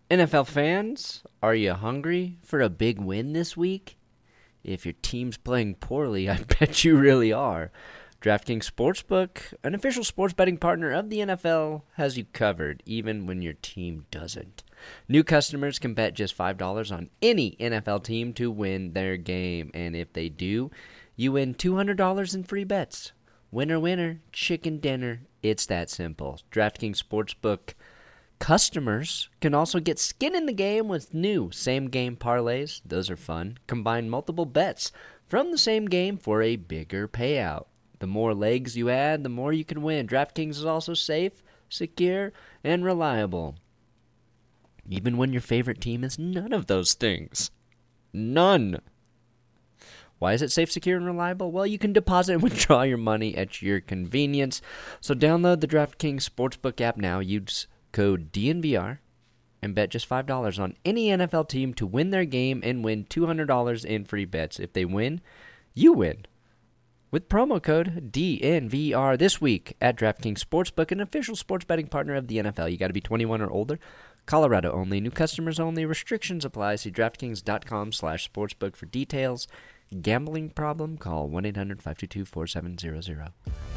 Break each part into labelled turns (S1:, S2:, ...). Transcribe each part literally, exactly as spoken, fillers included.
S1: N F L fans, are you hungry for a big win this week? If your team's playing poorly, I bet you really are. DraftKings Sportsbook, an official sports betting partner of the N F L, has you covered, even when your team doesn't. New customers can bet just five dollars on any N F L team to win their game, and if they do, you win two hundred dollars in free bets. Winner, winner, chicken dinner. It's that simple. DraftKings Sportsbook customers can also get skin in the game with new same-game parlays. Those are fun. Combine multiple bets from the same game for a bigger payout. The more legs you add, the more you can win. DraftKings is also safe, secure, and reliable, even when your favorite team is none of those things. None. Why is it safe, secure, and reliable? Well, you can deposit and withdraw your money at your convenience. So download the DraftKings Sportsbook app now. Use code D N V R and bet just five dollars on any N F L team to win their game and win two hundred dollars in free bets. If they win, you win. With promo code D N V R this week at DraftKings Sportsbook, an official sports betting partner of the N F L. You got to be twenty-one or older. Colorado only. New customers only. Restrictions apply. See DraftKings.com slash sportsbook for details. Gambling problem? Call one eight hundred five two two four seven zero zero.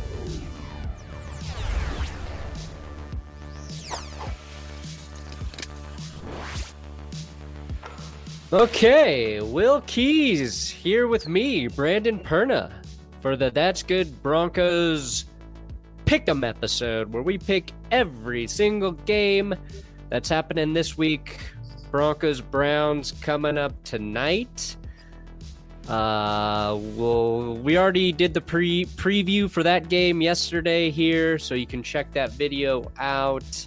S2: Okay, Will Keys here with me, Brandon Perna, for the That's Good Broncos Pick'em episode, where we pick every single game that's happening this week. Broncos Browns coming up tonight. Uh, well, we already did the pre preview for that game yesterday here, so you can check that video out.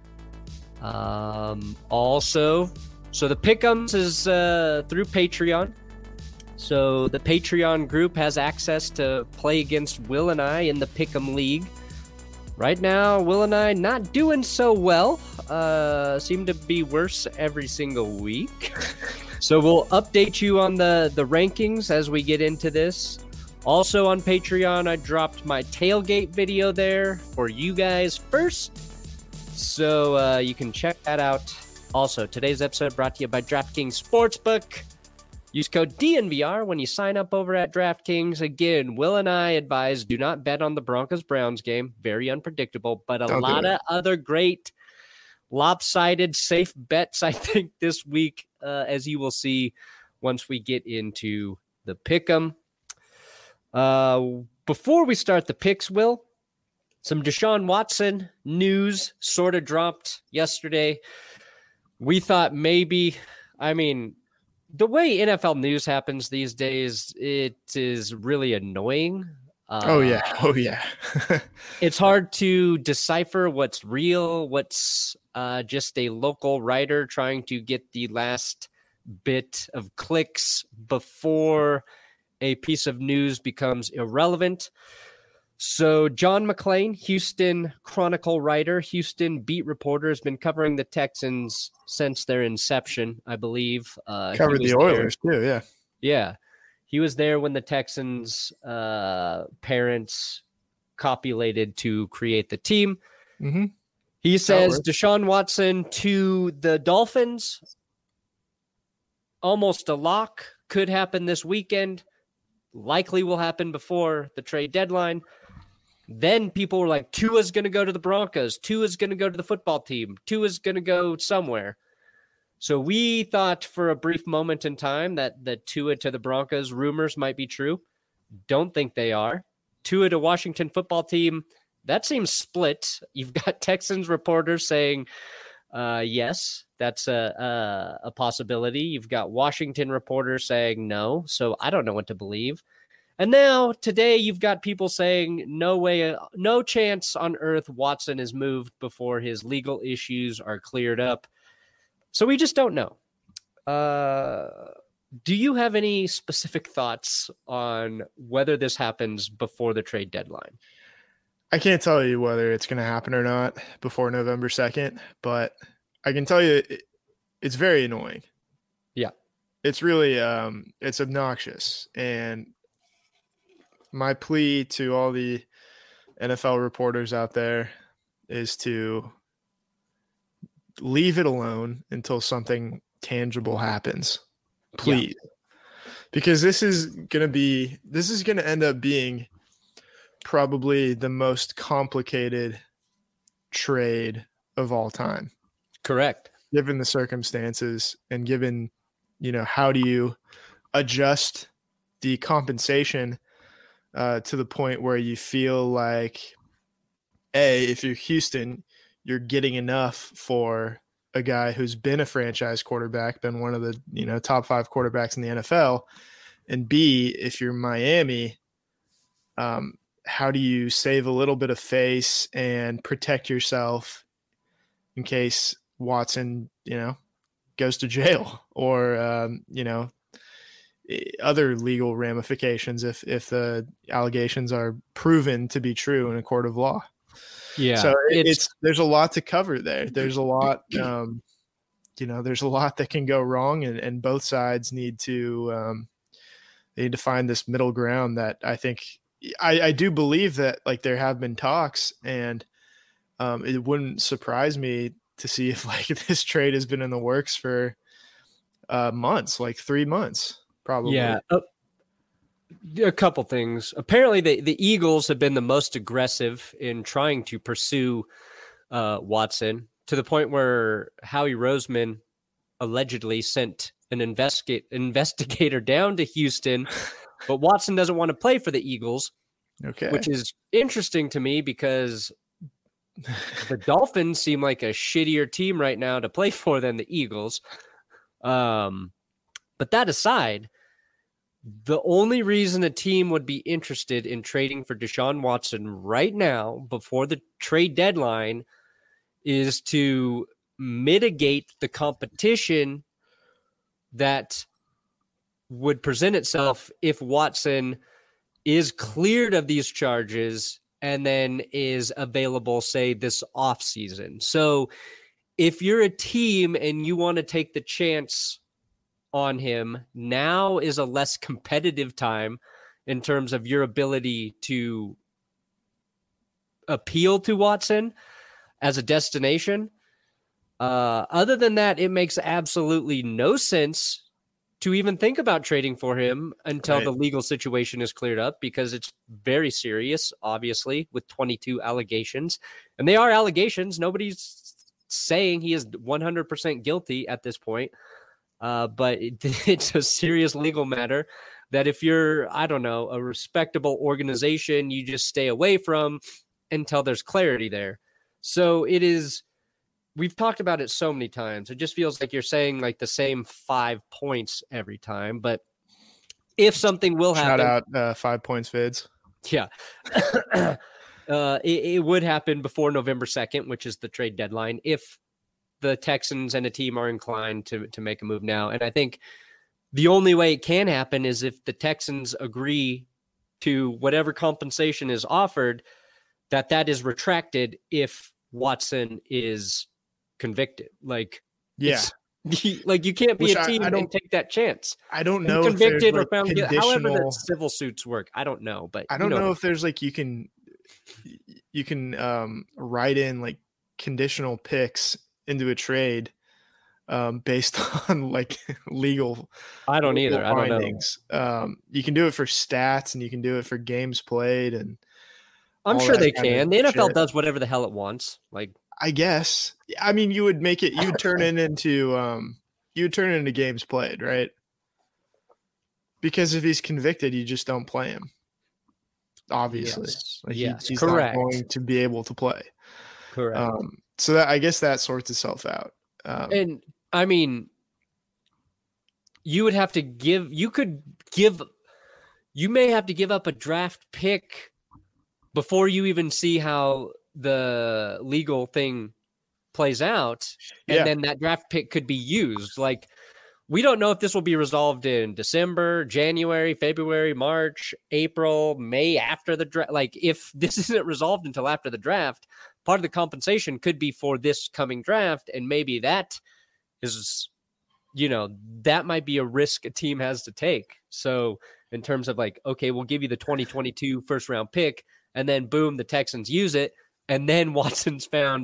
S2: Um, also, so the Pick'ems is uh, through Patreon. So the Patreon group has access to play against Will and I in the Pick'em League. Right now, Will and I not doing so well. Uh, seem to be worse every single week. So we'll update you on the, the rankings as we get into this. Also on Patreon, I dropped my tailgate video there for you guys first. So uh, you can check that out. Also, today's episode brought to you by DraftKings Sportsbook. Use code D N V R when you sign up over at DraftKings. Again, Will and I advise do not bet on the Broncos-Browns game. Very unpredictable, but a
S3: Don't do
S2: lot
S3: it.
S2: of other great lopsided, safe bets, I think, this week, uh, as you will see once we get into the Pick'em. Uh, before we start the picks, Will, some Deshaun Watson news sort of dropped yesterday. We thought maybe, I mean, the way N F L news happens these days, it is really annoying. Uh,
S3: Oh, yeah. Oh, yeah.
S2: It's hard to decipher what's real, what's uh, just a local writer trying to get the last bit of clicks before a piece of news becomes irrelevant. So John McClain, Houston Chronicle writer, Houston beat reporter, has been covering the Texans since their inception, I believe. Uh, he
S3: Covered
S2: was
S3: the
S2: there-
S3: Oilers, too, yeah.
S2: Yeah. He was there when the Texans' uh, parents copulated to create the team.
S3: Mm-hmm.
S2: He says
S3: works.
S2: Deshaun Watson to the Dolphins, almost a lock, could happen this weekend, likely will happen before the trade deadline. Then people were like, Tua's going to go to the Broncos. Tua's going to go to the football team. Tua's going to go somewhere. So we thought for a brief moment in time that the Tua to the Broncos rumors might be true. Don't think they are. Tua to Washington football team, that seems split. You've got Texans reporters saying, uh, yes, that's a, a, a possibility. You've got Washington reporters saying no. So I don't know what to believe. And now today you've got people saying no way, no chance on earth Watson is moved before his legal issues are cleared up. So we just don't know. Uh, do you have any specific thoughts on whether this happens before the trade deadline?
S3: I can't tell you whether it's going to happen or not before November second, but I can tell you it, it's very annoying.
S2: Yeah.
S3: It's really, um, it's obnoxious. And my plea to all the N F L reporters out there is to leave it alone until something tangible happens, please. Yeah. Because this is going to be, this is going to end up being probably the most complicated trade of all time.
S2: Correct.
S3: Given the circumstances and given, you know, how do you adjust the compensation uh, to the point where you feel like, A, if you're Houston, you're getting enough for a guy who's been a franchise quarterback, been one of the, you know, top five quarterbacks in the N F L. And B, if you're Miami, um, how do you save a little bit of face and protect yourself in case Watson, you know, goes to jail or, um, you know, other legal ramifications if, if the allegations are proven to be true in a court of law.
S2: Yeah.
S3: So it's, it's there's a lot to cover there. There's a lot, um, you know, there's a lot that can go wrong, and, and both sides need to, um, they need to find this middle ground that I think I, I do believe that like there have been talks, and um, it wouldn't surprise me to see if like this trade has been in the works for uh, months, like three months, probably.
S2: Yeah. Uh, a couple things. Apparently the, the Eagles have been the most aggressive in trying to pursue uh, Watson, to the point where Howie Roseman allegedly sent an investigate investigator down to Houston, but Watson doesn't want to play for the Eagles.
S3: Okay.
S2: Which is interesting to me because the Dolphins seem like a shittier team right now to play for than the Eagles. Um, but that aside, the only reason a team would be interested in trading for Deshaun Watson right now before the trade deadline is to mitigate the competition that would present itself if Watson is cleared of these charges and then is available, say, this offseason. So if you're a team and you want to take the chance on him, now is a less competitive time in terms of your ability to appeal to Watson as a destination. Uh, other than that, it makes absolutely no sense to even think about trading for him until right. the legal situation is cleared up, because it's very serious, obviously, with twenty-two allegations. And they are allegations. Nobody's saying he is one hundred percent guilty at this point. Uh, but it, it's a serious legal matter that if you're, I don't know, a respectable organization, you just stay away from until there's clarity there. So it is, we've talked about it so many times. It just feels like you're saying like the same five points every time. But if something will happen.
S3: Shout out uh, Five Points Vids.
S2: Yeah. uh, it, it would happen before November second, which is the trade deadline, if the Texans and a team are inclined to, to make a move now. And I think the only way it can happen is if the Texans agree to whatever compensation is offered, that that is retracted if Watson is convicted. Like,
S3: yeah,
S2: like you can't be
S3: Which
S2: a team
S3: I, I
S2: and take that chance.
S3: I don't know
S2: and convicted
S3: if
S2: or
S3: like
S2: found guilty.
S3: conditional...
S2: However, the civil suits work, I don't know, but
S3: I don't
S2: you know,
S3: know if there's like you can you can um, write in like conditional picks into a trade um, based on like legal.
S2: I don't legal either.
S3: Findings.
S2: I don't know.
S3: Um, you can do it for stats and you can do it for games played, and
S2: I'm sure they can. The N F L shit. does whatever the hell it wants. Like,
S3: I guess. I mean, you would make it. You would turn it into. Um, you would turn it into games played, right? Because if he's convicted, you just don't play him. Obviously,
S2: yes,
S3: like
S2: yes.
S3: He, he's
S2: correct.
S3: not going to be able to play.
S2: Correct.
S3: Um, so that I guess that sorts itself out. Um,
S2: and I mean, you would have to give. You could give. You may have to give up a draft pick before you even see how the legal thing plays out. And
S3: yeah.
S2: then that draft pick could be used. Like, we don't know if this will be resolved in December, January, February, March, April, May, after the draft. Like, if this isn't resolved until after the draft, part of the compensation could be for this coming draft. And maybe that is, you know, that might be a risk a team has to take. So in terms of like, okay, we'll give you the twenty twenty-two first round pick, and then boom, the Texans use it. And then Watson's found,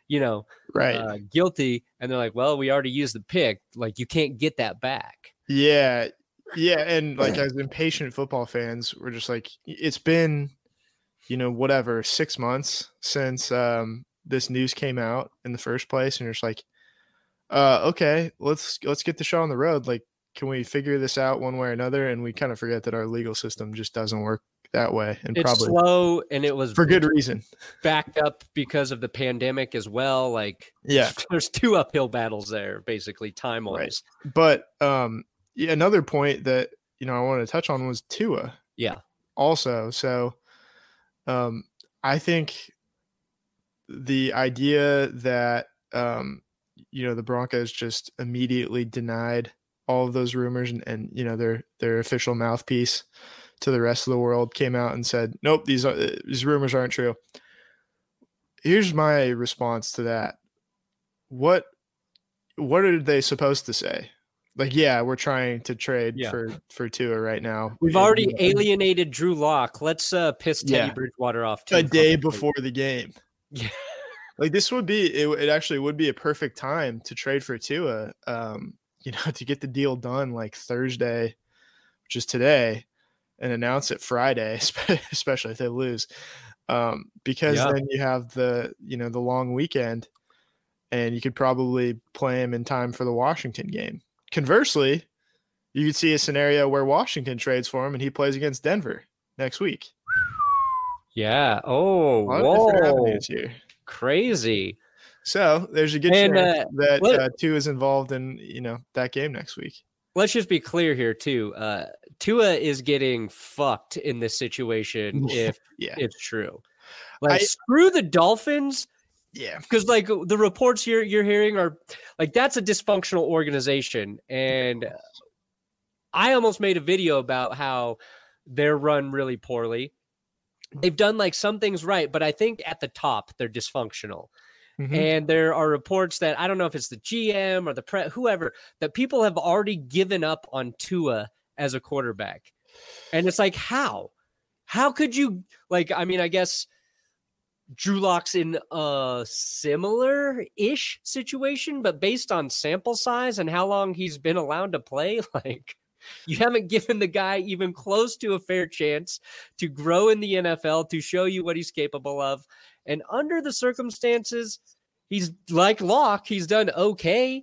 S2: you know,
S3: Right.
S2: uh, guilty. And they're like, well, we already used the pick. Like, you can't get that back.
S3: Yeah. Yeah. And like as impatient football fans, we're just like, it's been, you know, whatever, six months since um, this news came out in the first place. And you're just like, uh, okay, let's, let's get the show on the road. Like, can we figure this out one way or another? And we kind of forget that our legal system just doesn't work that way. And
S2: It's
S3: probably
S2: slow, and it was
S3: for good reason.
S2: backed up because of the pandemic as well. Like,
S3: Yeah.
S2: there's two uphill battles there, basically, time wise.
S3: Right. But um, yeah, another point that, you know, I wanted to touch on was Tua.
S2: Yeah.
S3: Also. So um, I think the idea that, um, you know, the Broncos just immediately denied all of those rumors and, and, you know, their, their official mouthpiece to the rest of the world came out and said, nope, these are, these rumors aren't true. Here's my response to that. What, what are they supposed to say? Like, yeah, we're trying to trade
S2: Yeah.
S3: for, for Tua right now.
S2: We've
S3: And,
S2: already
S3: you know,
S2: alienated Drew Lock. Let's uh, piss Teddy
S3: Yeah.
S2: Bridgewater off too.
S3: a day
S2: probably.
S3: before the game.
S2: Yeah.
S3: Like this would be, it, it actually would be a perfect time to trade for Tua, um, you know, to get the deal done like Thursday, which is today, and announce it Friday, especially if they lose. Um, because
S2: Yeah.
S3: then you have the, you know, the long weekend and you could probably play him in time for the Washington game. Conversely, you could see a scenario where Washington trades for him and he plays against Denver next week.
S2: Yeah. Oh,
S3: A lot of different
S2: whoa.
S3: avenues here.
S2: Crazy.
S3: So there's a good
S2: And,
S3: chance
S2: uh,
S3: that
S2: what-
S3: uh, Tua is involved in, you know, that game next week.
S2: Let's just be clear here too. Uh, Tua is getting fucked in this situation if
S3: Yeah.
S2: it's true. Like,
S3: I-
S2: screw the Dolphins.
S3: Yeah.
S2: Because like the reports you're you're hearing are like that's a dysfunctional organization, and I almost made a video about how they're run really poorly. They've done like some things right, but I think at the top they're dysfunctional.
S3: Mhm.
S2: And there are reports that I don't know if it's the G M or the pre whoever that people have already given up on Tua as a quarterback, and it's like how how could you like? I mean, I guess. Drew Lock's in a similar-ish situation, but based on sample size and how long he's been allowed to play, like you haven't given the guy even close to a fair chance to grow in the N F L, to show you what he's capable of. And under the circumstances, he's like Locke, he's done okay.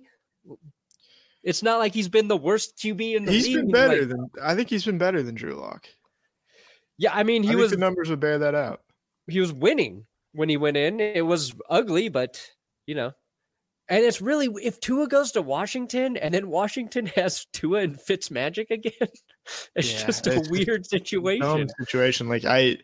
S2: It's not like he's been the worst Q B in the
S3: He's
S2: league.
S3: been better
S2: Like,
S3: than I think he's been better than Drew Lock.
S2: yeah, I mean,
S3: I
S2: he
S3: think
S2: was
S3: the numbers would bear that out.
S2: he was winning when he went in. It was ugly, but you know, and it's really if Tua goes to Washington and then Washington has Tua and Fitzmagic again, it's
S3: Yeah,
S2: just a
S3: it's-
S2: weird situation.
S3: Dumb situation. Like I,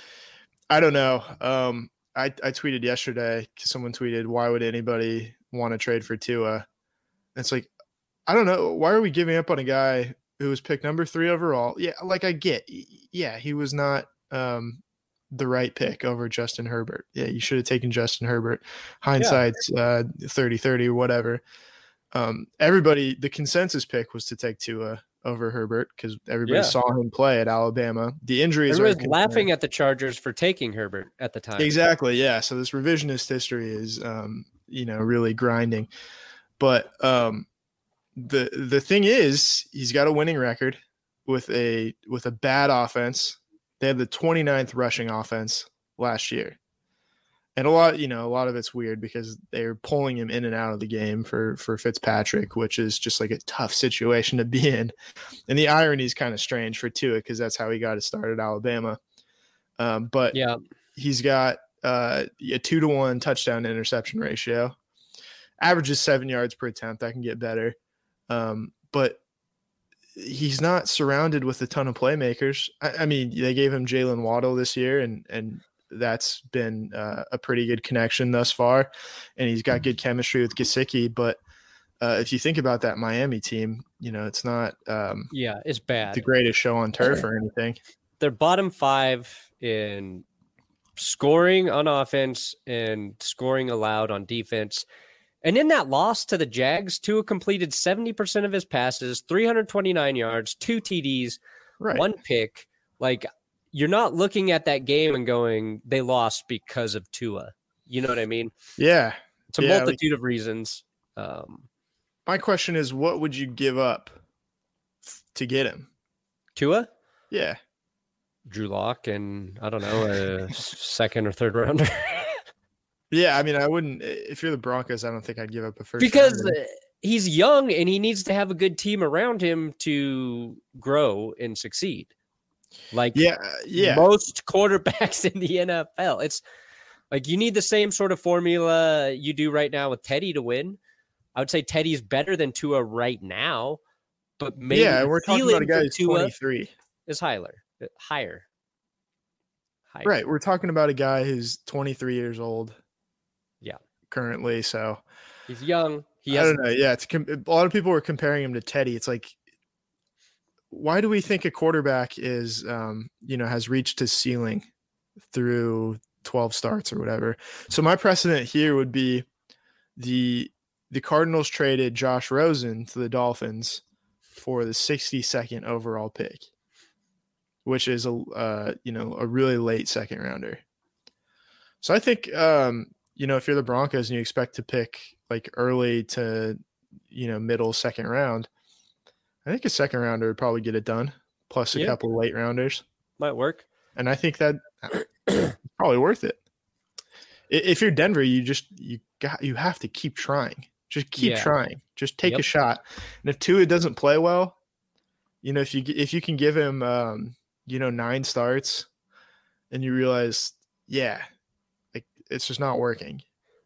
S3: I don't know. Um, I I tweeted yesterday because someone tweeted, "Why would anybody want to trade for Tua?" It's like, I don't know. Why are we giving up on a guy who was picked number three overall? Yeah, like I get, yeah, he was not um, the right pick over Justin Herbert. Yeah, you should have taken Justin Herbert. Hindsight's uh, thirty thirty or whatever. Um, everybody, the consensus pick was to take Tua over Herbert because everybody
S2: Yeah.
S3: saw him play at Alabama. The injuries
S2: Everyone
S3: are
S2: was laughing at the Chargers for taking Herbert at the time.
S3: Exactly. Yeah. So this revisionist history is, um, you know, really grinding. But um, the the thing is, he's got a winning record with a with a bad offense. They had the twenty-ninth rushing offense last year, and a lot, you know, a lot of it's weird because they're pulling him in and out of the game for for Fitzpatrick, which is just like a tough situation to be in. And the irony is kind of strange for Tua because that's how he got his start at Alabama. Um, but
S2: Yeah.
S3: he's got uh, a two to one touchdown to interception ratio. Averages seven yards per attempt. That can get better. Um, but he's not surrounded with a ton of playmakers. I, I mean, they gave him Jalen Waddle this year, and and that's been uh, a pretty good connection thus far. And he's got good chemistry with Gesicki. But uh, if you think about that Miami team, you know, it's not um,
S2: Yeah, it's bad.
S3: the greatest show on turf or anything.
S2: They're bottom five in scoring on offense and scoring allowed on defense. And in that loss to the Jags, Tua completed seventy percent of his passes, three hundred twenty-nine yards, two T Ds,
S3: Right.
S2: one pick. Like, you're not looking at that game and going, they lost because of Tua. You know what I mean?
S3: Yeah.
S2: It's a
S3: Yeah,
S2: multitude of reasons. Um,
S3: My question is, what would you give up to get him?
S2: Tua,
S3: Yeah.
S2: Drew Lock, and I don't know, a second or third rounder.
S3: Yeah, I mean, I wouldn't. If you're the Broncos, I don't think I'd give up a first
S2: because
S3: rounder.
S2: uh, he's young and he needs to have a good team around him to grow and succeed. Like
S3: Yeah, yeah.
S2: most quarterbacks in the N F L. It's like you need the same sort of formula you do right now with Teddy to win. I would say Teddy's better than Tua right now, but maybe
S3: yeah,
S2: the
S3: we're talking about a
S2: ceiling
S3: guy
S2: for
S3: who's
S2: Tua
S3: twenty-three.
S2: is higher. Higher. Higher.
S3: Right, we're talking about a guy who's twenty-three years old.
S2: Yeah.
S3: Currently, so
S2: He's young. He
S3: I
S2: has
S3: don't know. Yeah, it's com- a lot of people were comparing him to Teddy. It's like, why do we think a quarterback is, um, you know, has reached his ceiling through twelve starts or whatever? So my precedent here would be the the Cardinals traded Josh Rosen to the Dolphins for the sixty-second overall pick, which is a uh, you know a really late second rounder. So I think um, you know if you're the Broncos and you expect to pick like early to you know middle second round, I think a second rounder would probably get it done, plus a
S2: Yeah.
S3: couple of late rounders,
S2: might work.
S3: and I think that probably worth it. I- If you're Denver, you just you got you have to keep trying. Just keep
S2: Yeah.
S3: trying. Just take
S2: Yep.
S3: a shot. And if Tua doesn't play well, you know if you if you can give him um, you know nine starts, and you realize, yeah, like it's just not working.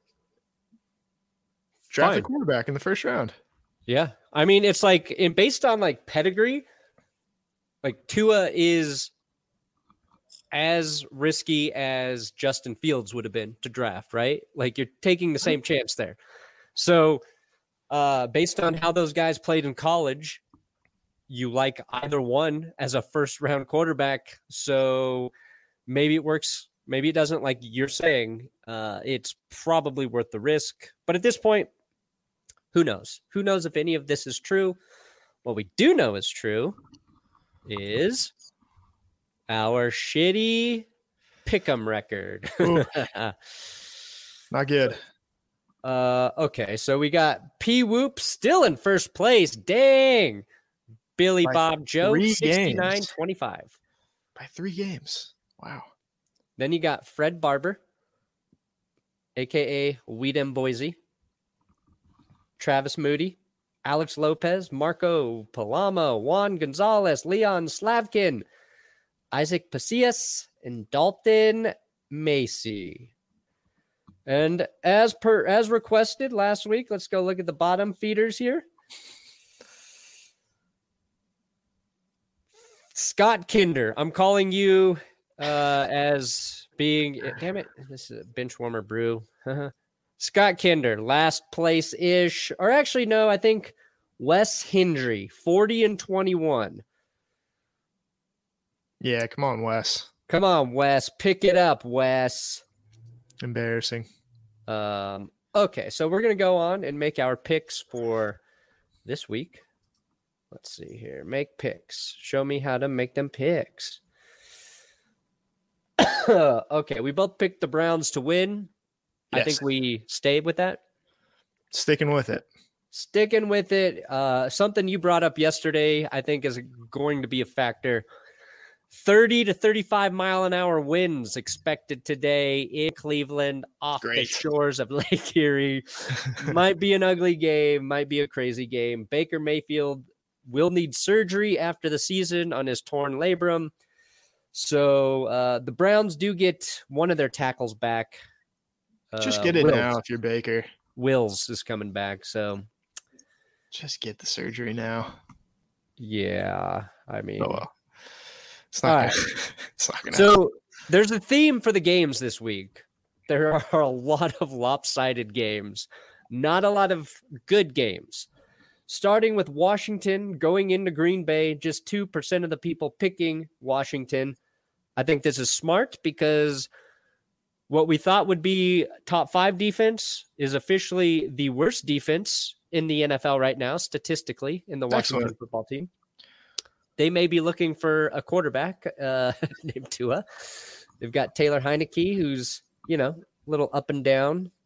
S3: Draft a
S2: Fine.
S3: quarterback in the first round.
S2: Yeah. I mean, it's like in based on like pedigree, like Tua is as risky as Justin Fields would have been to draft, right? Like you're taking the same chance there. So, uh, based on how those guys played in college, you like either one as a first round quarterback. So maybe it works, maybe it doesn't. Like you're saying, uh, it's probably worth the risk. But at this point, who knows? Who knows if any of this is true? What we do know is true is our shitty pick'em record.
S3: Ooh. Not good.
S2: uh, okay, so we got P Whoop still in first place. Dang. Billy
S3: By
S2: Bob Joe,
S3: three
S2: sixty-nine
S3: games.
S2: twenty-five.
S3: By three games. Wow.
S2: Then you got Fred Barber, a k a. Weedem Boise, Travis Moody, Alex Lopez, Marco Palama, Juan Gonzalez, Leon Slavkin, Isaac Pasillas, and Dalton Macy. And as per as requested last week, let's go look at the bottom feeders here. Scott Kinder, I'm calling you uh, as being, damn it, this is a bench warmer brew. Scott Kinder, last place ish, or actually, no, I think Wes Hendry, forty and twenty-one.
S3: Yeah, come on, Wes.
S2: Come on, Wes, pick it up, Wes.
S3: Embarrassing.
S2: Um, okay, so we're going to go on and make our picks for this week. Let's see here. Make picks. Show me how to make them picks. Okay, we both picked the Browns to win.
S3: Yes.
S2: I think we stayed with that.
S3: Sticking with it.
S2: Sticking with it. Uh, something you brought up yesterday, I think, is going to be a factor. thirty to thirty-five mile an hour winds expected today in Cleveland off
S3: Great.
S2: the shores of Lake Erie. Might be an ugly game, might be a crazy game. Baker Mayfield will need surgery after the season on his torn labrum. So uh, the Browns do get one of their tackles back.
S3: Just
S2: Uh,
S3: get it
S2: Wills.
S3: now if you're Baker.
S2: Wills is coming back. So,
S3: Just get the surgery now.
S2: yeah, I mean,
S3: Oh well. It's not
S2: All
S3: gonna,
S2: right.
S3: it's not gonna
S2: so there's a theme for the games this week. There are a lot of lopsided games, not a lot of good games. Starting with Washington going into Green Bay, just two percent of the people picking Washington. I think this is smart because what we thought would be top five defense is officially the worst defense in the N F L right now, statistically, in the Washington
S3: Excellent.
S2: football team. They may be looking for a quarterback uh, named Tua. They've got Taylor Heineke, who's, you know, a little up and down.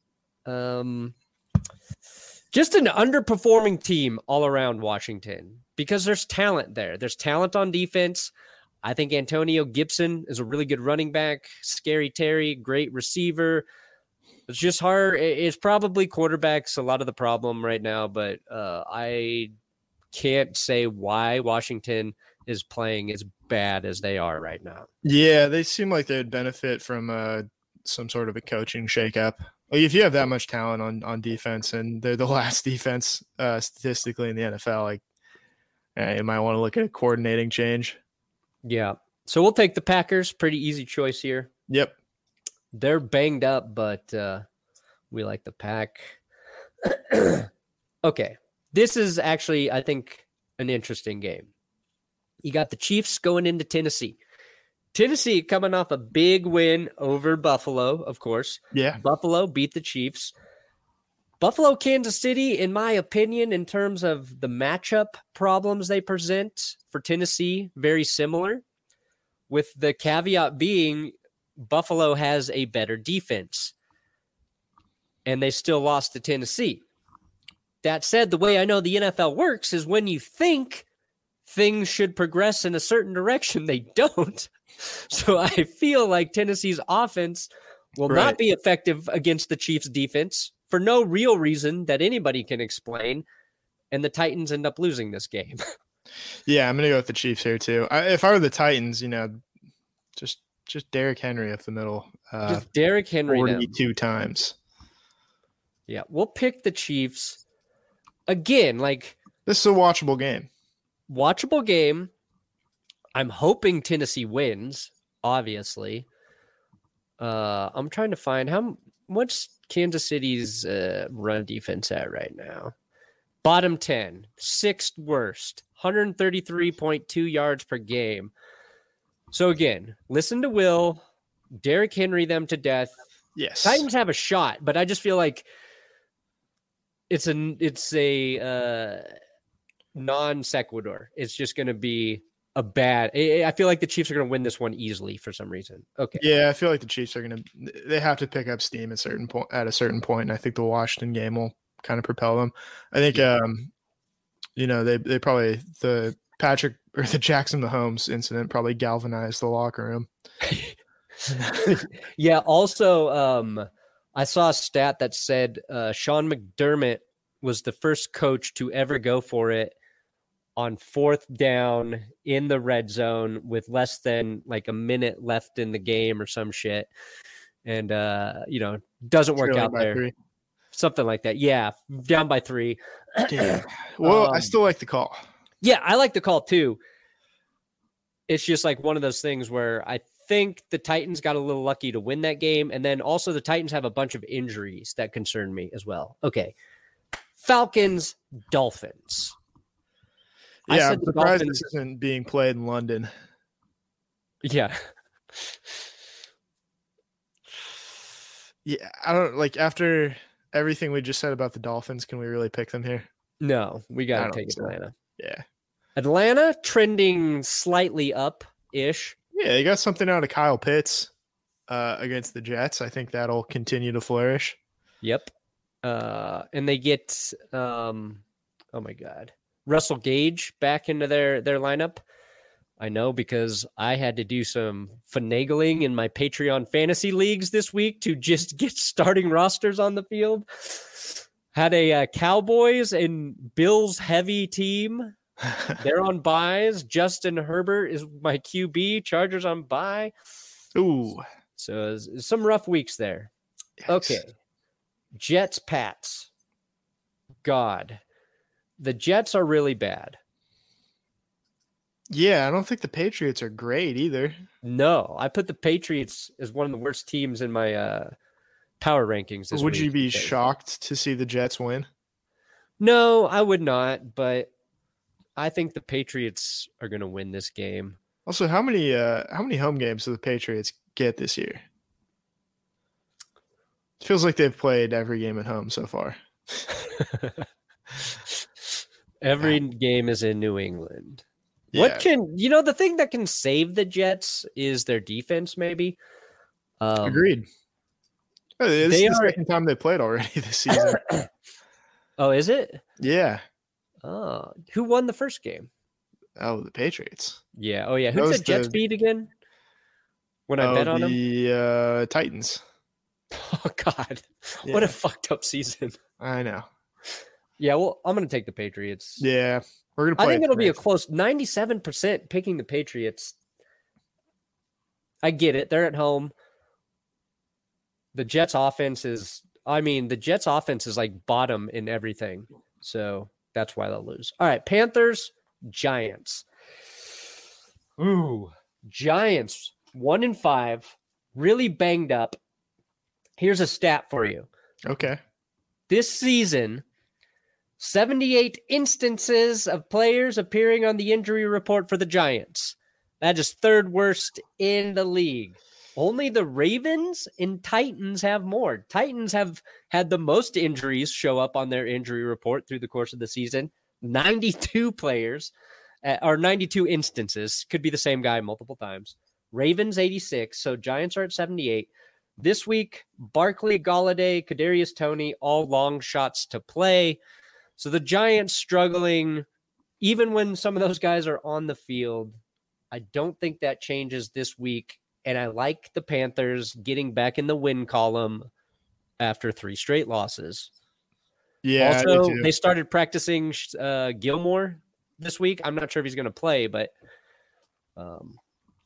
S2: Um, just an underperforming team all around Washington because there's talent there. There's talent on defense. I think Antonio Gibson is a really good running back. Scary Terry, great receiver. It's just hard. It's probably quarterbacks a lot of the problem right now, but uh, I can't say why Washington is playing as bad as they are right now.
S3: Yeah, they seem like they'd benefit from uh, some sort of a coaching shakeup. Like if you have that much talent on, on defense and they're the last defense uh, statistically in the N F L, like eh, you might want to look at a coordinating change.
S2: Yeah. So we'll take the Packers. Pretty easy choice here.
S3: Yep.
S2: They're banged up, but uh, we like the Pack. Okay. This is actually, I think, an interesting game. You got the Chiefs going into Tennessee. Tennessee coming off a big win over Buffalo, of course.
S3: Yeah.
S2: Buffalo beat the Chiefs. Buffalo, Kansas City, in my opinion, in terms of the matchup problems they present for Tennessee, very similar, with the caveat being Buffalo has a better defense, and they still lost to Tennessee. That said, the way I know the N F L works is when you think things should progress in a certain direction, they don't. So I feel like Tennessee's offense will
S3: Right.
S2: not be effective against the Chiefs' defense for no real reason that anybody can explain, and the Titans end up losing this game.
S3: Yeah, I'm going to go with the Chiefs here too. I, if I were the Titans, you know, just just Derrick Henry up the middle uh,
S2: Just Derrick Henry. them.
S3: forty-two times.
S2: Yeah, we'll pick the Chiefs. Again, like,
S3: This is a watchable game.
S2: watchable game. I'm hoping Tennessee wins, obviously. Uh, I'm trying to find how what's Kansas City's uh, run defense at right now. Bottom ten, sixth worst, one thirty-three point two yards per game. So again, listen to Will, Derrick Henry them to death.
S3: Yes.
S2: Titans have a shot, but I just feel like it's a it's a uh, non sequitur. It's just going to be a bad. I I feel like the Chiefs are going to win this one easily for some reason. Okay.
S3: Yeah, I feel like the Chiefs are going to. They have to pick up steam at certain point at a certain point, and I think the Washington game will kind of propel them. I think, um, you know, they they probably the Patrick or the Jackson Mahomes incident probably galvanized the locker room.
S2: Yeah. Also, um, I saw a stat that said uh, Sean McDermott was the first coach to ever go for it on fourth down in the red zone with less than like a minute left in the game or some shit. And, uh, you know, doesn't work
S3: Trailing
S2: out
S3: by
S2: there.
S3: three.
S2: Something like that. Yeah. Down by three.
S3: Yeah. Well, I
S2: Um,
S3: still like the call.
S2: Yeah, I like the call too. It's just like one of those things where I think the Titans got a little lucky to win that game. And then also the Titans have a bunch of injuries that concern me as well. Okay. Falcons, Dolphins. I
S3: Yeah,
S2: said
S3: I'm
S2: the
S3: surprised
S2: Dolphins-
S3: this isn't being played in London.
S2: Yeah.
S3: Yeah, I don't like after everything we just said about the Dolphins. Can we really pick them here?
S2: No, we
S3: I
S2: got
S3: don't
S2: to take
S3: think so.
S2: Atlanta.
S3: Yeah,
S2: Atlanta trending slightly up ish.
S3: yeah, they got something out of Kyle Pitts uh, against the Jets. I think that'll continue to flourish.
S2: Yep. Uh, and they get, um, oh my God, Russell Gage back into their, their lineup. I know because I had to do some finagling in my Patreon fantasy leagues this week to just get starting rosters on the field. Had a uh, Cowboys and Bills heavy team. They're on buys. Justin Herbert is my Q B. Chargers on buy.
S3: Ooh,
S2: So it's some rough weeks there.
S3: yikes.
S2: Okay. Jets, Pats. God. The Jets are really bad.
S3: Yeah, I don't think the Patriots are great either.
S2: No, I put the Patriots as one of the worst teams in my uh, power rankings this
S3: Would
S2: week
S3: you be
S2: because-
S3: shocked to see the Jets win?
S2: No, I would not, but I think the Patriots are going to win this game.
S3: Also, how many uh, how many home games do the Patriots get this year? It feels like they've played every game at home so far.
S2: Every game is in New England.
S3: Yeah.
S2: What can, you know, the thing that can save the Jets is their defense, maybe. Um,
S3: Agreed. Oh, this
S2: They
S3: is the
S2: are-
S3: second time they played already this season.
S2: Oh, is it?
S3: Yeah.
S2: Oh, who won the first game?
S3: Oh, the Patriots.
S2: Yeah. Oh, yeah.
S3: That
S2: Who's
S3: was
S2: the Jets
S3: the-
S2: beat again? When I
S3: oh,
S2: bet on them?
S3: the uh, Titans.
S2: Oh, God.
S3: Yeah,
S2: What a fucked up season.
S3: I know.
S2: Yeah, well, I'm going to take the Patriots.
S3: Yeah, we're gonna.
S2: I
S3: Play
S2: think
S3: it
S2: it'll be a
S3: tonight.
S2: close ninety-seven percent picking the Patriots. I get it. They're at home. The Jets offense is, I mean, the Jets offense is like bottom in everything. So that's why they'll lose. All right. Panthers, Giants. Ooh, Giants, one in five, really banged up. Here's a stat for you.
S3: Okay.
S2: This season, seventy-eight instances of players appearing on the injury report for the Giants. That is third worst in the league. Only the Ravens and Titans have more. Titans have had the most injuries show up on their injury report through the course of the season. ninety-two players, uh, or ninety-two instances. Could be the same guy multiple times. Ravens, eighty-six. So Giants are at seventy-eight. This week, Barkley, Galladay, Kadarius Toney, all long shots to play. So the Giants struggling, even when some of those guys are on the field. I don't think that changes this week. And I like the Panthers getting back in the win column after three straight losses.
S3: Yeah. I do
S2: also,
S3: too.
S2: they started practicing uh, Gilmore this week. I'm not sure if he's going to play, but um,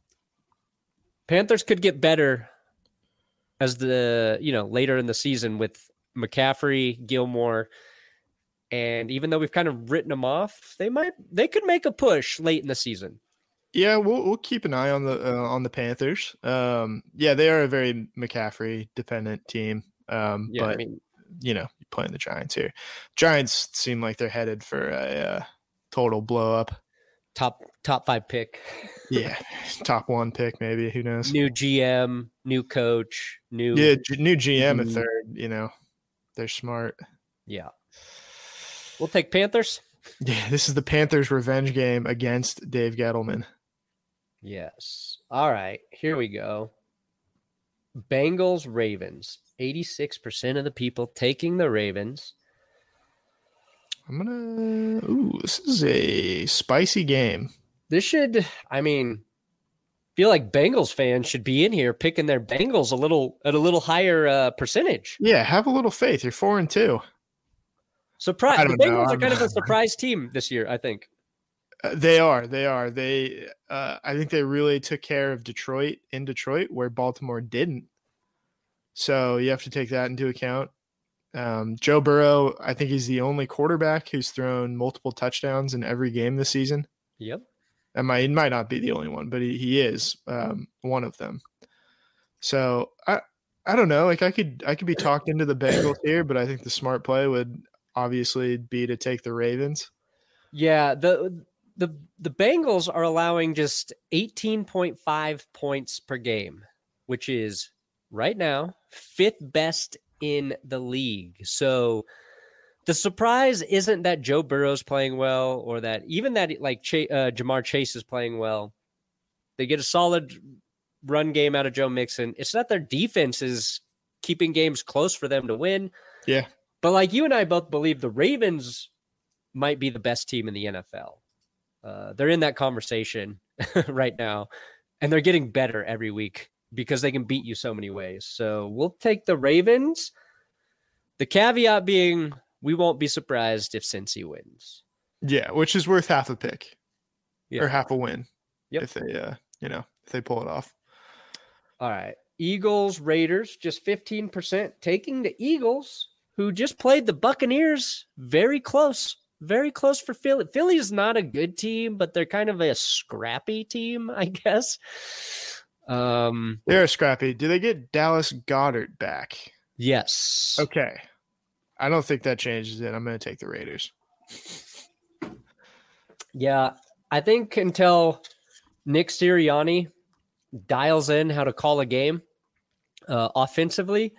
S2: Panthers could get better as the, you know, later in the season with McCaffrey, Gilmore. And even though we've kind of written them off, they might, they could make a push late in the season.
S3: Yeah, we'll we'll keep an eye on the uh, on the Panthers. Um, yeah, they are a very McCaffrey dependent team. Um,
S2: Yeah,
S3: but
S2: I mean,
S3: you know, playing the Giants here, Giants seem like they're headed for a uh, total blow up.
S2: top top five pick.
S3: Yeah, top one pick maybe. Who knows?
S2: New G M, new coach, new
S3: Yeah, G- new G M if
S2: Mhm.
S3: they're you know they're smart.
S2: yeah. We'll take Panthers.
S3: Yeah, this is the Panthers' revenge game against Dave Gettleman.
S2: Yes. All right. Here we go. Bengals, Ravens. eighty-six percent of the people taking the Ravens.
S3: I'm gonna. Ooh, this is a spicy game.
S2: This should, I mean, feel like Bengals fans should be in here picking their Bengals a little at a little higher uh, percentage.
S3: Yeah, have a little faith. You're four and two.
S2: Surprise!
S3: I
S2: The
S3: don't know.
S2: Bengals are
S3: I'm-
S2: kind of a surprise team this year, I think.
S3: Uh, they are. They are. They. Uh, I think they really took care of Detroit in Detroit, where Baltimore didn't. So you have to take that into account. Um, Joe Burrow, I think he's the only quarterback who's thrown multiple touchdowns in every game this season.
S2: Yep.
S3: That might, he might not be the only one, but he, he is um, one of them. So I I don't know. Like I could I could be talked into the Bengals here, but I think the smart play would obviously be to take the Ravens.
S2: Yeah, the the the Bengals are allowing just eighteen point five points per game, which is right now fifth best in the league. So the surprise isn't that Joe Burrow's playing well or that even that like Ch- uh, Jamar Chase is playing well. They get a solid run game out of Joe Mixon. It's not their defense is keeping games close for them to win.
S3: Yeah.
S2: But like you and I both believe the Ravens might be the best team in the N F L. Uh, they're in that conversation right now, and they're getting better every week because they can beat you so many ways. So we'll take the Ravens. The caveat being we won't be surprised if Cincy wins.
S3: Yeah, which is worth half a pick
S2: Yeah.
S3: or half a win.
S2: Yep.
S3: If they uh you know, if they pull it off.
S2: All right. Eagles, Raiders, just fifteen percent taking the Eagles, who just played the Buccaneers very close. Very close for Philly. Philly is not a good team, but they're kind of a scrappy team, I guess. Um,
S3: They're scrappy. Do they get Dallas Goddard back?
S2: yes.
S3: Okay. I don't think that changes it. I'm going to take the Raiders.
S2: Yeah, I think until Nick Sirianni dials in how to call a game uh, offensively,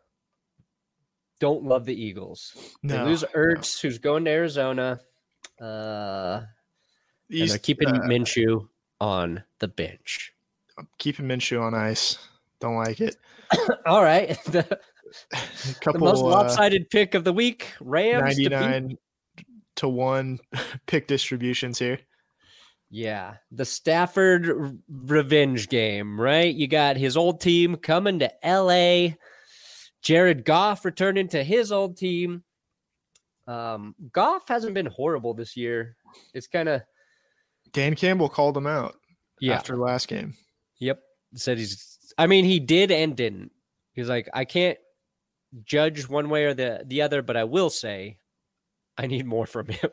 S2: don't love the Eagles. They
S3: No,
S2: lose
S3: no.
S2: Ertz, who's going to Arizona. Uh, and
S3: These,
S2: they're keeping
S3: uh,
S2: Minshew on the bench.
S3: keeping Minshew on ice. Don't like it.
S2: All right. The
S3: A
S2: The
S3: couple
S2: most
S3: uh,
S2: lopsided pick of the week. Rams to beat.
S3: ninety-nine to one pick distributions here.
S2: Yeah, the Stafford r- revenge game, right? You got his old team coming to L A. Jared Goff returning to his old team. Um, Goff hasn't been horrible this year. It's kind of
S3: Dan Campbell called him out
S2: yeah.
S3: after last game.
S2: Yep, said he's. I mean, he did and didn't. He's like, I can't judge one way or the the other, but I will say, I need more from him.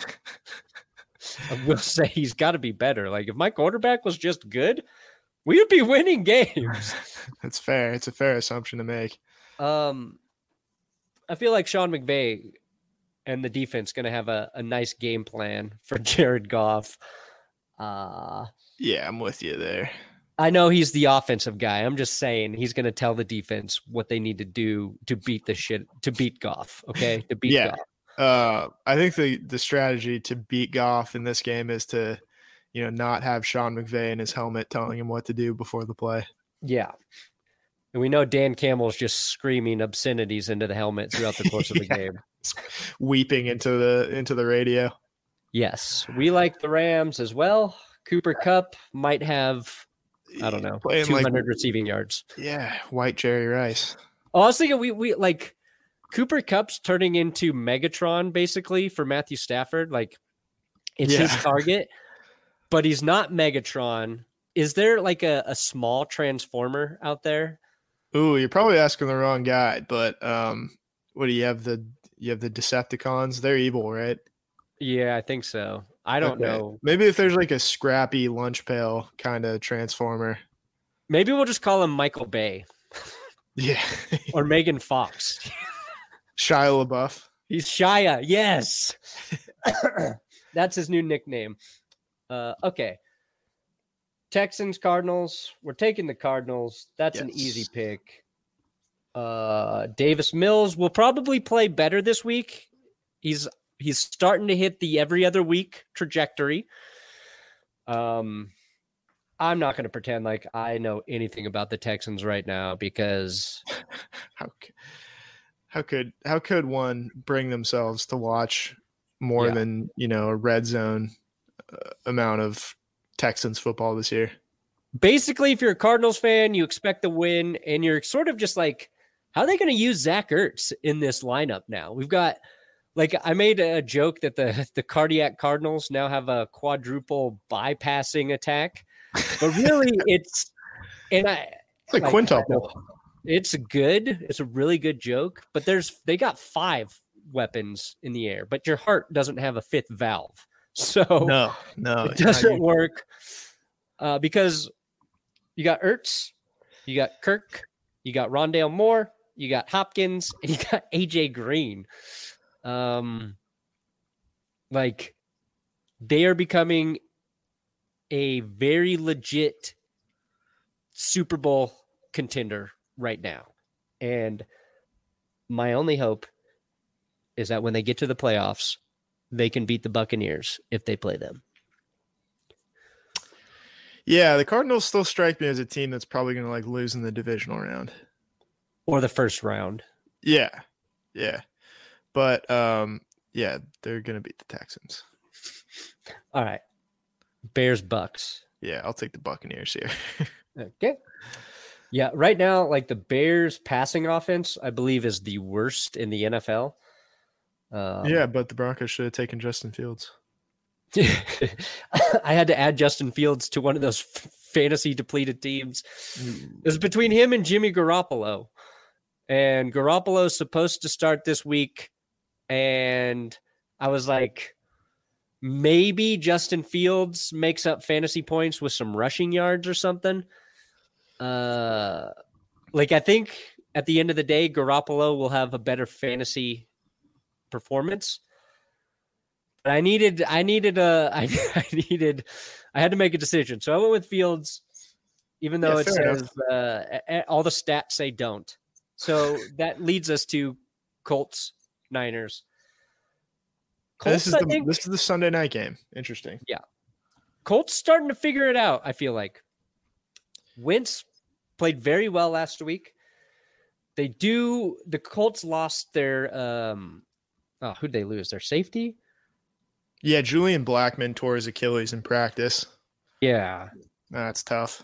S2: I will say he's got to be better. Like if my quarterback was just good, we would be winning games.
S3: That's fair. It's a fair assumption to make.
S2: Um, I feel like Sean McVay and the defense going to have a, a nice game plan for Jared Goff. Uh,
S3: Yeah, I'm with you there.
S2: I know he's the offensive guy. I'm just saying he's going to tell the defense what they need to do to beat the shit, to beat Goff. Okay. To beat
S3: Yeah.
S2: Goff.
S3: Uh, I think the the strategy to beat Goff in this game is to, you know, not have Sean McVay in his helmet telling him what to do before the play.
S2: Yeah. And we know Dan Campbell's just screaming obscenities into the helmet throughout the course of the
S3: Yeah.
S2: game.
S3: Weeping into the into the radio.
S2: Yes. We like the Rams as well. Cooper Kupp might have, I don't know,
S3: Playing
S2: two hundred
S3: like,
S2: receiving yards.
S3: yeah, white Jerry Rice.
S2: Oh, I was thinking we, we like Cooper Kupp's turning into Megatron basically for Matthew Stafford. Like it's
S3: Yeah.
S2: his target, but he's not Megatron. Is there like a, a small transformer out there?
S3: Ooh, you're probably asking the wrong guy, but um, what do you have the you have the Decepticons? They're evil, right?
S2: Yeah, I think so. I don't
S3: Okay.
S2: know.
S3: Maybe if there's like a scrappy lunch pail kind of transformer.
S2: Maybe we'll just call him Michael Bay
S3: Yeah.
S2: or Megan Fox.
S3: Shia LaBeouf.
S2: He's Shia. Yes. That's his new nickname. Uh, okay. Texans, Cardinals. We're taking the Cardinals. That's an
S3: Yes.
S2: easy pick. Uh, Davis Mills will probably play better this week. He's he's starting to hit the every other week trajectory. Um, I'm not going to pretend like I know anything about the Texans right now because
S3: How c- how could how could one bring themselves to watch more
S2: Yeah.
S3: than, you know, a red zone uh, amount of Texans football this year?
S2: basically, if you're a Cardinals fan, you expect the win, and you're sort of just like, how are they going to use Zach Ertz in this lineup now? We've got, like, I made a joke that the the cardiac Cardinals now have a quadruple bypassing attack, but really, it's and I
S3: It's like
S2: like,
S3: quintuple.
S2: it's good. It's a really good joke, but there's they got five weapons in the air, but your heart doesn't have a fifth valve, so
S3: No, no,
S2: it
S3: it's not
S2: doesn't
S3: you.
S2: work uh, because you got Ertz, you got Kirk, you got Rondale Moore, you got Hopkins, and you got A J Green. Um, like they are becoming a very legit Super Bowl contender right now, and my only hope is that when they get to the playoffs, they can beat the Buccaneers if they play them.
S3: Yeah, the Cardinals still strike me as a team that's probably going to like lose in the divisional round.
S2: Or the first round.
S3: Yeah, yeah, but um, yeah, they're going to beat the Texans.
S2: All right. Bears, Bucks.
S3: Yeah, I'll take the Buccaneers here.
S2: Okay. Yeah, right now, like the Bears passing offense, I believe, is the worst in the N F L. Um,
S3: yeah, but the Broncos should have taken Justin Fields.
S2: I had to add Justin Fields to one of those f- fantasy depleted teams. It was between him and Jimmy Garoppolo. And Garoppolo's supposed to start this week. And I was like, maybe Justin Fields makes up fantasy points with some rushing yards or something. Uh, like, I think at the end of the day, Garoppolo will have a better fantasy performance. But I needed, I needed a, I, I needed, I had to make a decision. So I went with Fields, even though
S3: Yeah,
S2: it
S3: fair
S2: says uh, a- a- all the stats say don't. So that leads us to Colts, Niners. Colts,
S3: this is
S2: I
S3: the
S2: think,
S3: this is the Sunday night game. Interesting.
S2: Colts starting to figure it out, I feel like. Wentz played very well last week. They do. The Colts lost their. Um, oh, who'd they lose? Their safety.
S3: Yeah, Julian Blackmon tore his Achilles in practice.
S2: Yeah,
S3: That's tough.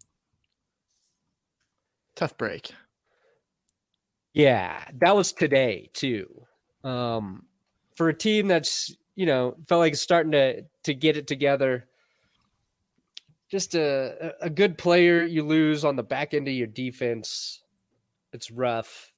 S3: Tough break.
S2: yeah, that was today too. Um, for a team that's you know felt like it's starting to to get it together. Just a a good player you lose on the back end of your defense. It's rough.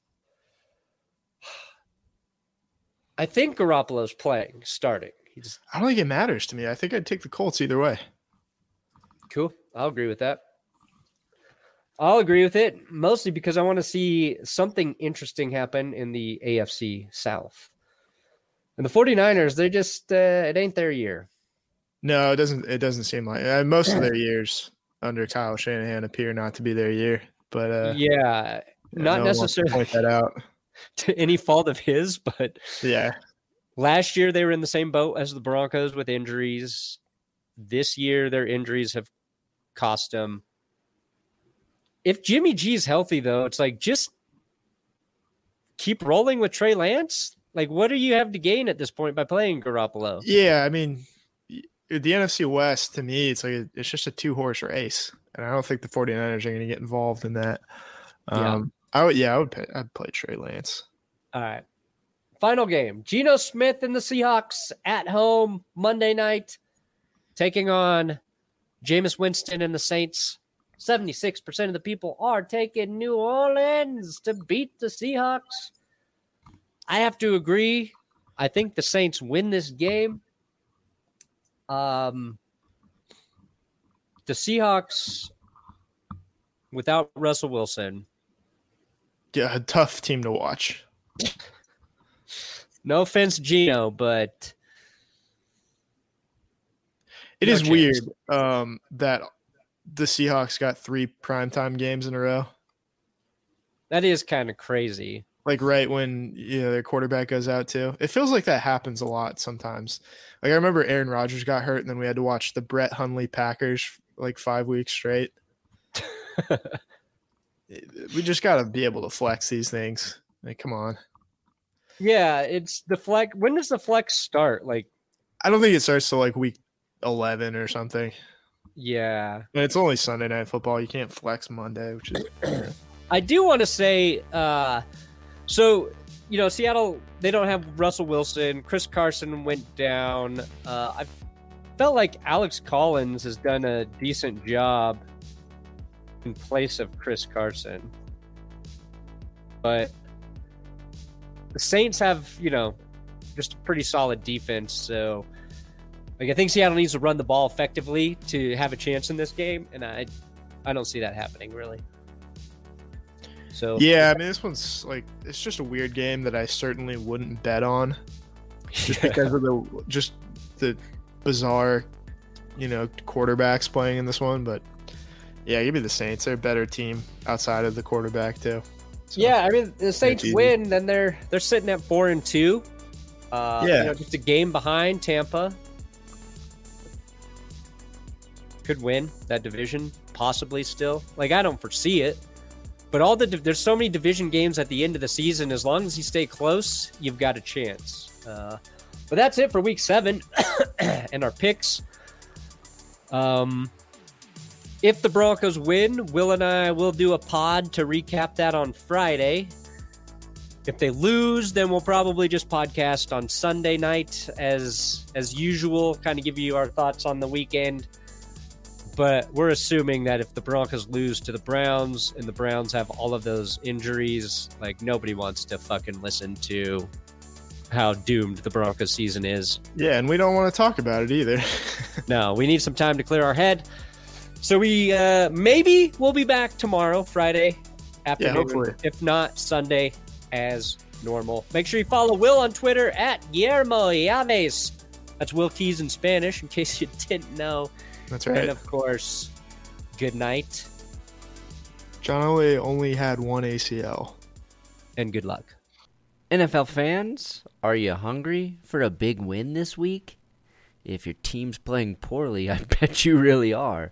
S2: I think Garoppolo's playing, starting. He's
S3: I don't think it matters to me. I think I'd take the Colts either way.
S2: cool. I'll agree with that. I'll agree with it, mostly because I want to see something interesting happen in the A F C South. And the 49ers, they just, uh, it ain't their year.
S3: No, it doesn't. It doesn't seem like uh, most of their years under Kyle Shanahan appear not to be their year. But uh,
S2: yeah, not
S3: no one wants to
S2: necessarily
S3: point that out.
S2: to any fault of his, but
S3: Yeah,
S2: last year they were in the same boat as the Broncos with injuries. This year their injuries have cost them. If Jimmy G's healthy, though, it's like just keep rolling with Trey Lance. Like, what do you have to gain at this point by playing Garoppolo?
S3: yeah. I mean, the N F C West to me, it's like a, it's just a two horse race, and I don't think the 49ers are going to get involved in that. Um, I would, yeah, I would. Pay, I'd play Trey Lance.
S2: All right. Final game. Geno Smith and the Seahawks at home Monday night, taking on Jameis Winston and the Saints. seventy-six percent of the people are taking New Orleans to beat the Seahawks. I have to agree. I think the Saints win this game. Um, the Seahawks, without Russell Wilson,
S3: Yeah, a tough team to watch.
S2: no offense, Geno, but
S3: It
S2: no
S3: is
S2: chance.
S3: weird um, that the Seahawks got three primetime games in a row.
S2: That is kind of crazy.
S3: Like right when you know their quarterback goes out too. It feels like that happens a lot sometimes. Like I remember Aaron Rodgers got hurt and then we had to watch the Brett Hundley Packers like five weeks straight. We just got to be able to flex these things. Like, come on.
S2: Yeah, it's the flex. When does the flex start? Like,
S3: I don't think it starts till like week eleven or something.
S2: yeah.
S3: And it's only Sunday Night Football. You can't flex Monday, which is
S2: I do want to say, uh, so, you know, Seattle, they don't have Russell Wilson. Chris Carson went down. Uh, I felt like Alex Collins has done a decent job in place of Chris Carson. But the Saints have, you know, just a pretty solid defense. So, like, I think Seattle needs to run the ball effectively to have a chance in this game. And I, I don't see that happening, really. So
S3: yeah, I mean, this one's like it's just a weird game that I certainly wouldn't bet on, just
S2: yeah.
S3: because of the just the bizarre, you know, quarterbacks playing in this one. But yeah, give me the Saints. They're a better team outside of the quarterback too. So,
S2: yeah, I mean, the Saints
S3: easy.
S2: win, then they're they're sitting at four and two. Uh,
S3: Yeah.
S2: you know, just a game behind Tampa. Could win that division, possibly still. Like, I don't foresee it. But all the there's so many division games at the end of the season. As long as you stay close, you've got a chance. Uh, but that's it for week seven and our picks. Um, if the Broncos win, Will and I will do a pod to recap that on Friday. If they lose, then we'll probably just podcast on Sunday night as as usual, kind of give you our thoughts on the weekend. But we're assuming that if the Broncos lose to the Browns and the Browns have all of those injuries, like nobody wants to fucking listen to how doomed the Broncos season is.
S3: Yeah, and we don't want to talk about it either.
S2: No, we need some time to clear our head. So we uh, maybe we'll be back tomorrow, Friday afternoon.
S3: Yeah, hopefully.
S2: If not, Sunday as normal. Make sure you follow Will on Twitter at Guillermo Llaves. That's Will Keys in Spanish, in case you didn't know.
S3: That's right.
S2: And of course, good night
S3: John Elway only had one A C L.
S2: and good luck.
S1: N F L fans, are you hungry for a big win this week? If your team's playing poorly, I bet you really are.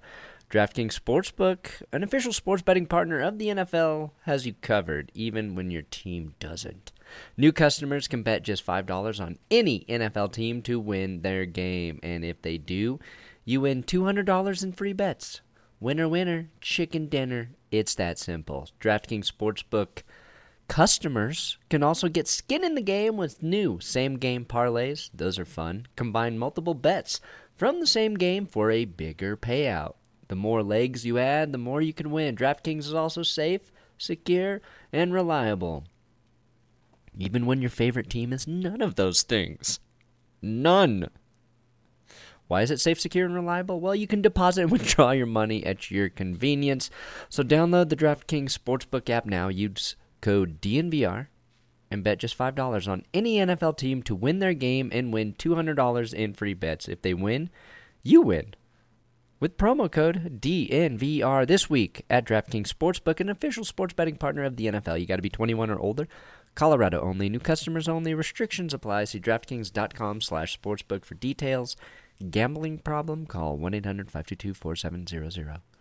S1: DraftKings Sportsbook, an official sports betting partner of the N F L, has you covered even when your team doesn't. New customers can bet just five dollars on any N F L team to win their game, and if they do, you win two hundred dollars in free bets. Winner, winner, chicken dinner. It's that simple. DraftKings Sportsbook customers can also get skin in the game with new same-game parlays. Those are fun. Combine multiple bets from the same game for a bigger payout. The more legs you add, the more you can win. DraftKings is also safe, secure, and reliable. Even when your favorite team is none of those things. None. Why is it safe, secure, and reliable? Well, you can deposit and withdraw your money at your convenience. So download the DraftKings Sportsbook app now. Use code D N V R and bet just five dollars on any N F L team to win their game and win two hundred dollars in free bets. If they win, you win. With promo code D N V R this week at DraftKings Sportsbook, an official sports betting partner of the N F L. You got to be twenty-one or older. Colorado only. New customers only. Restrictions apply. See DraftKings.com slash sportsbook for details. Gambling problem? Call one eight hundred five two two four seven zero zero.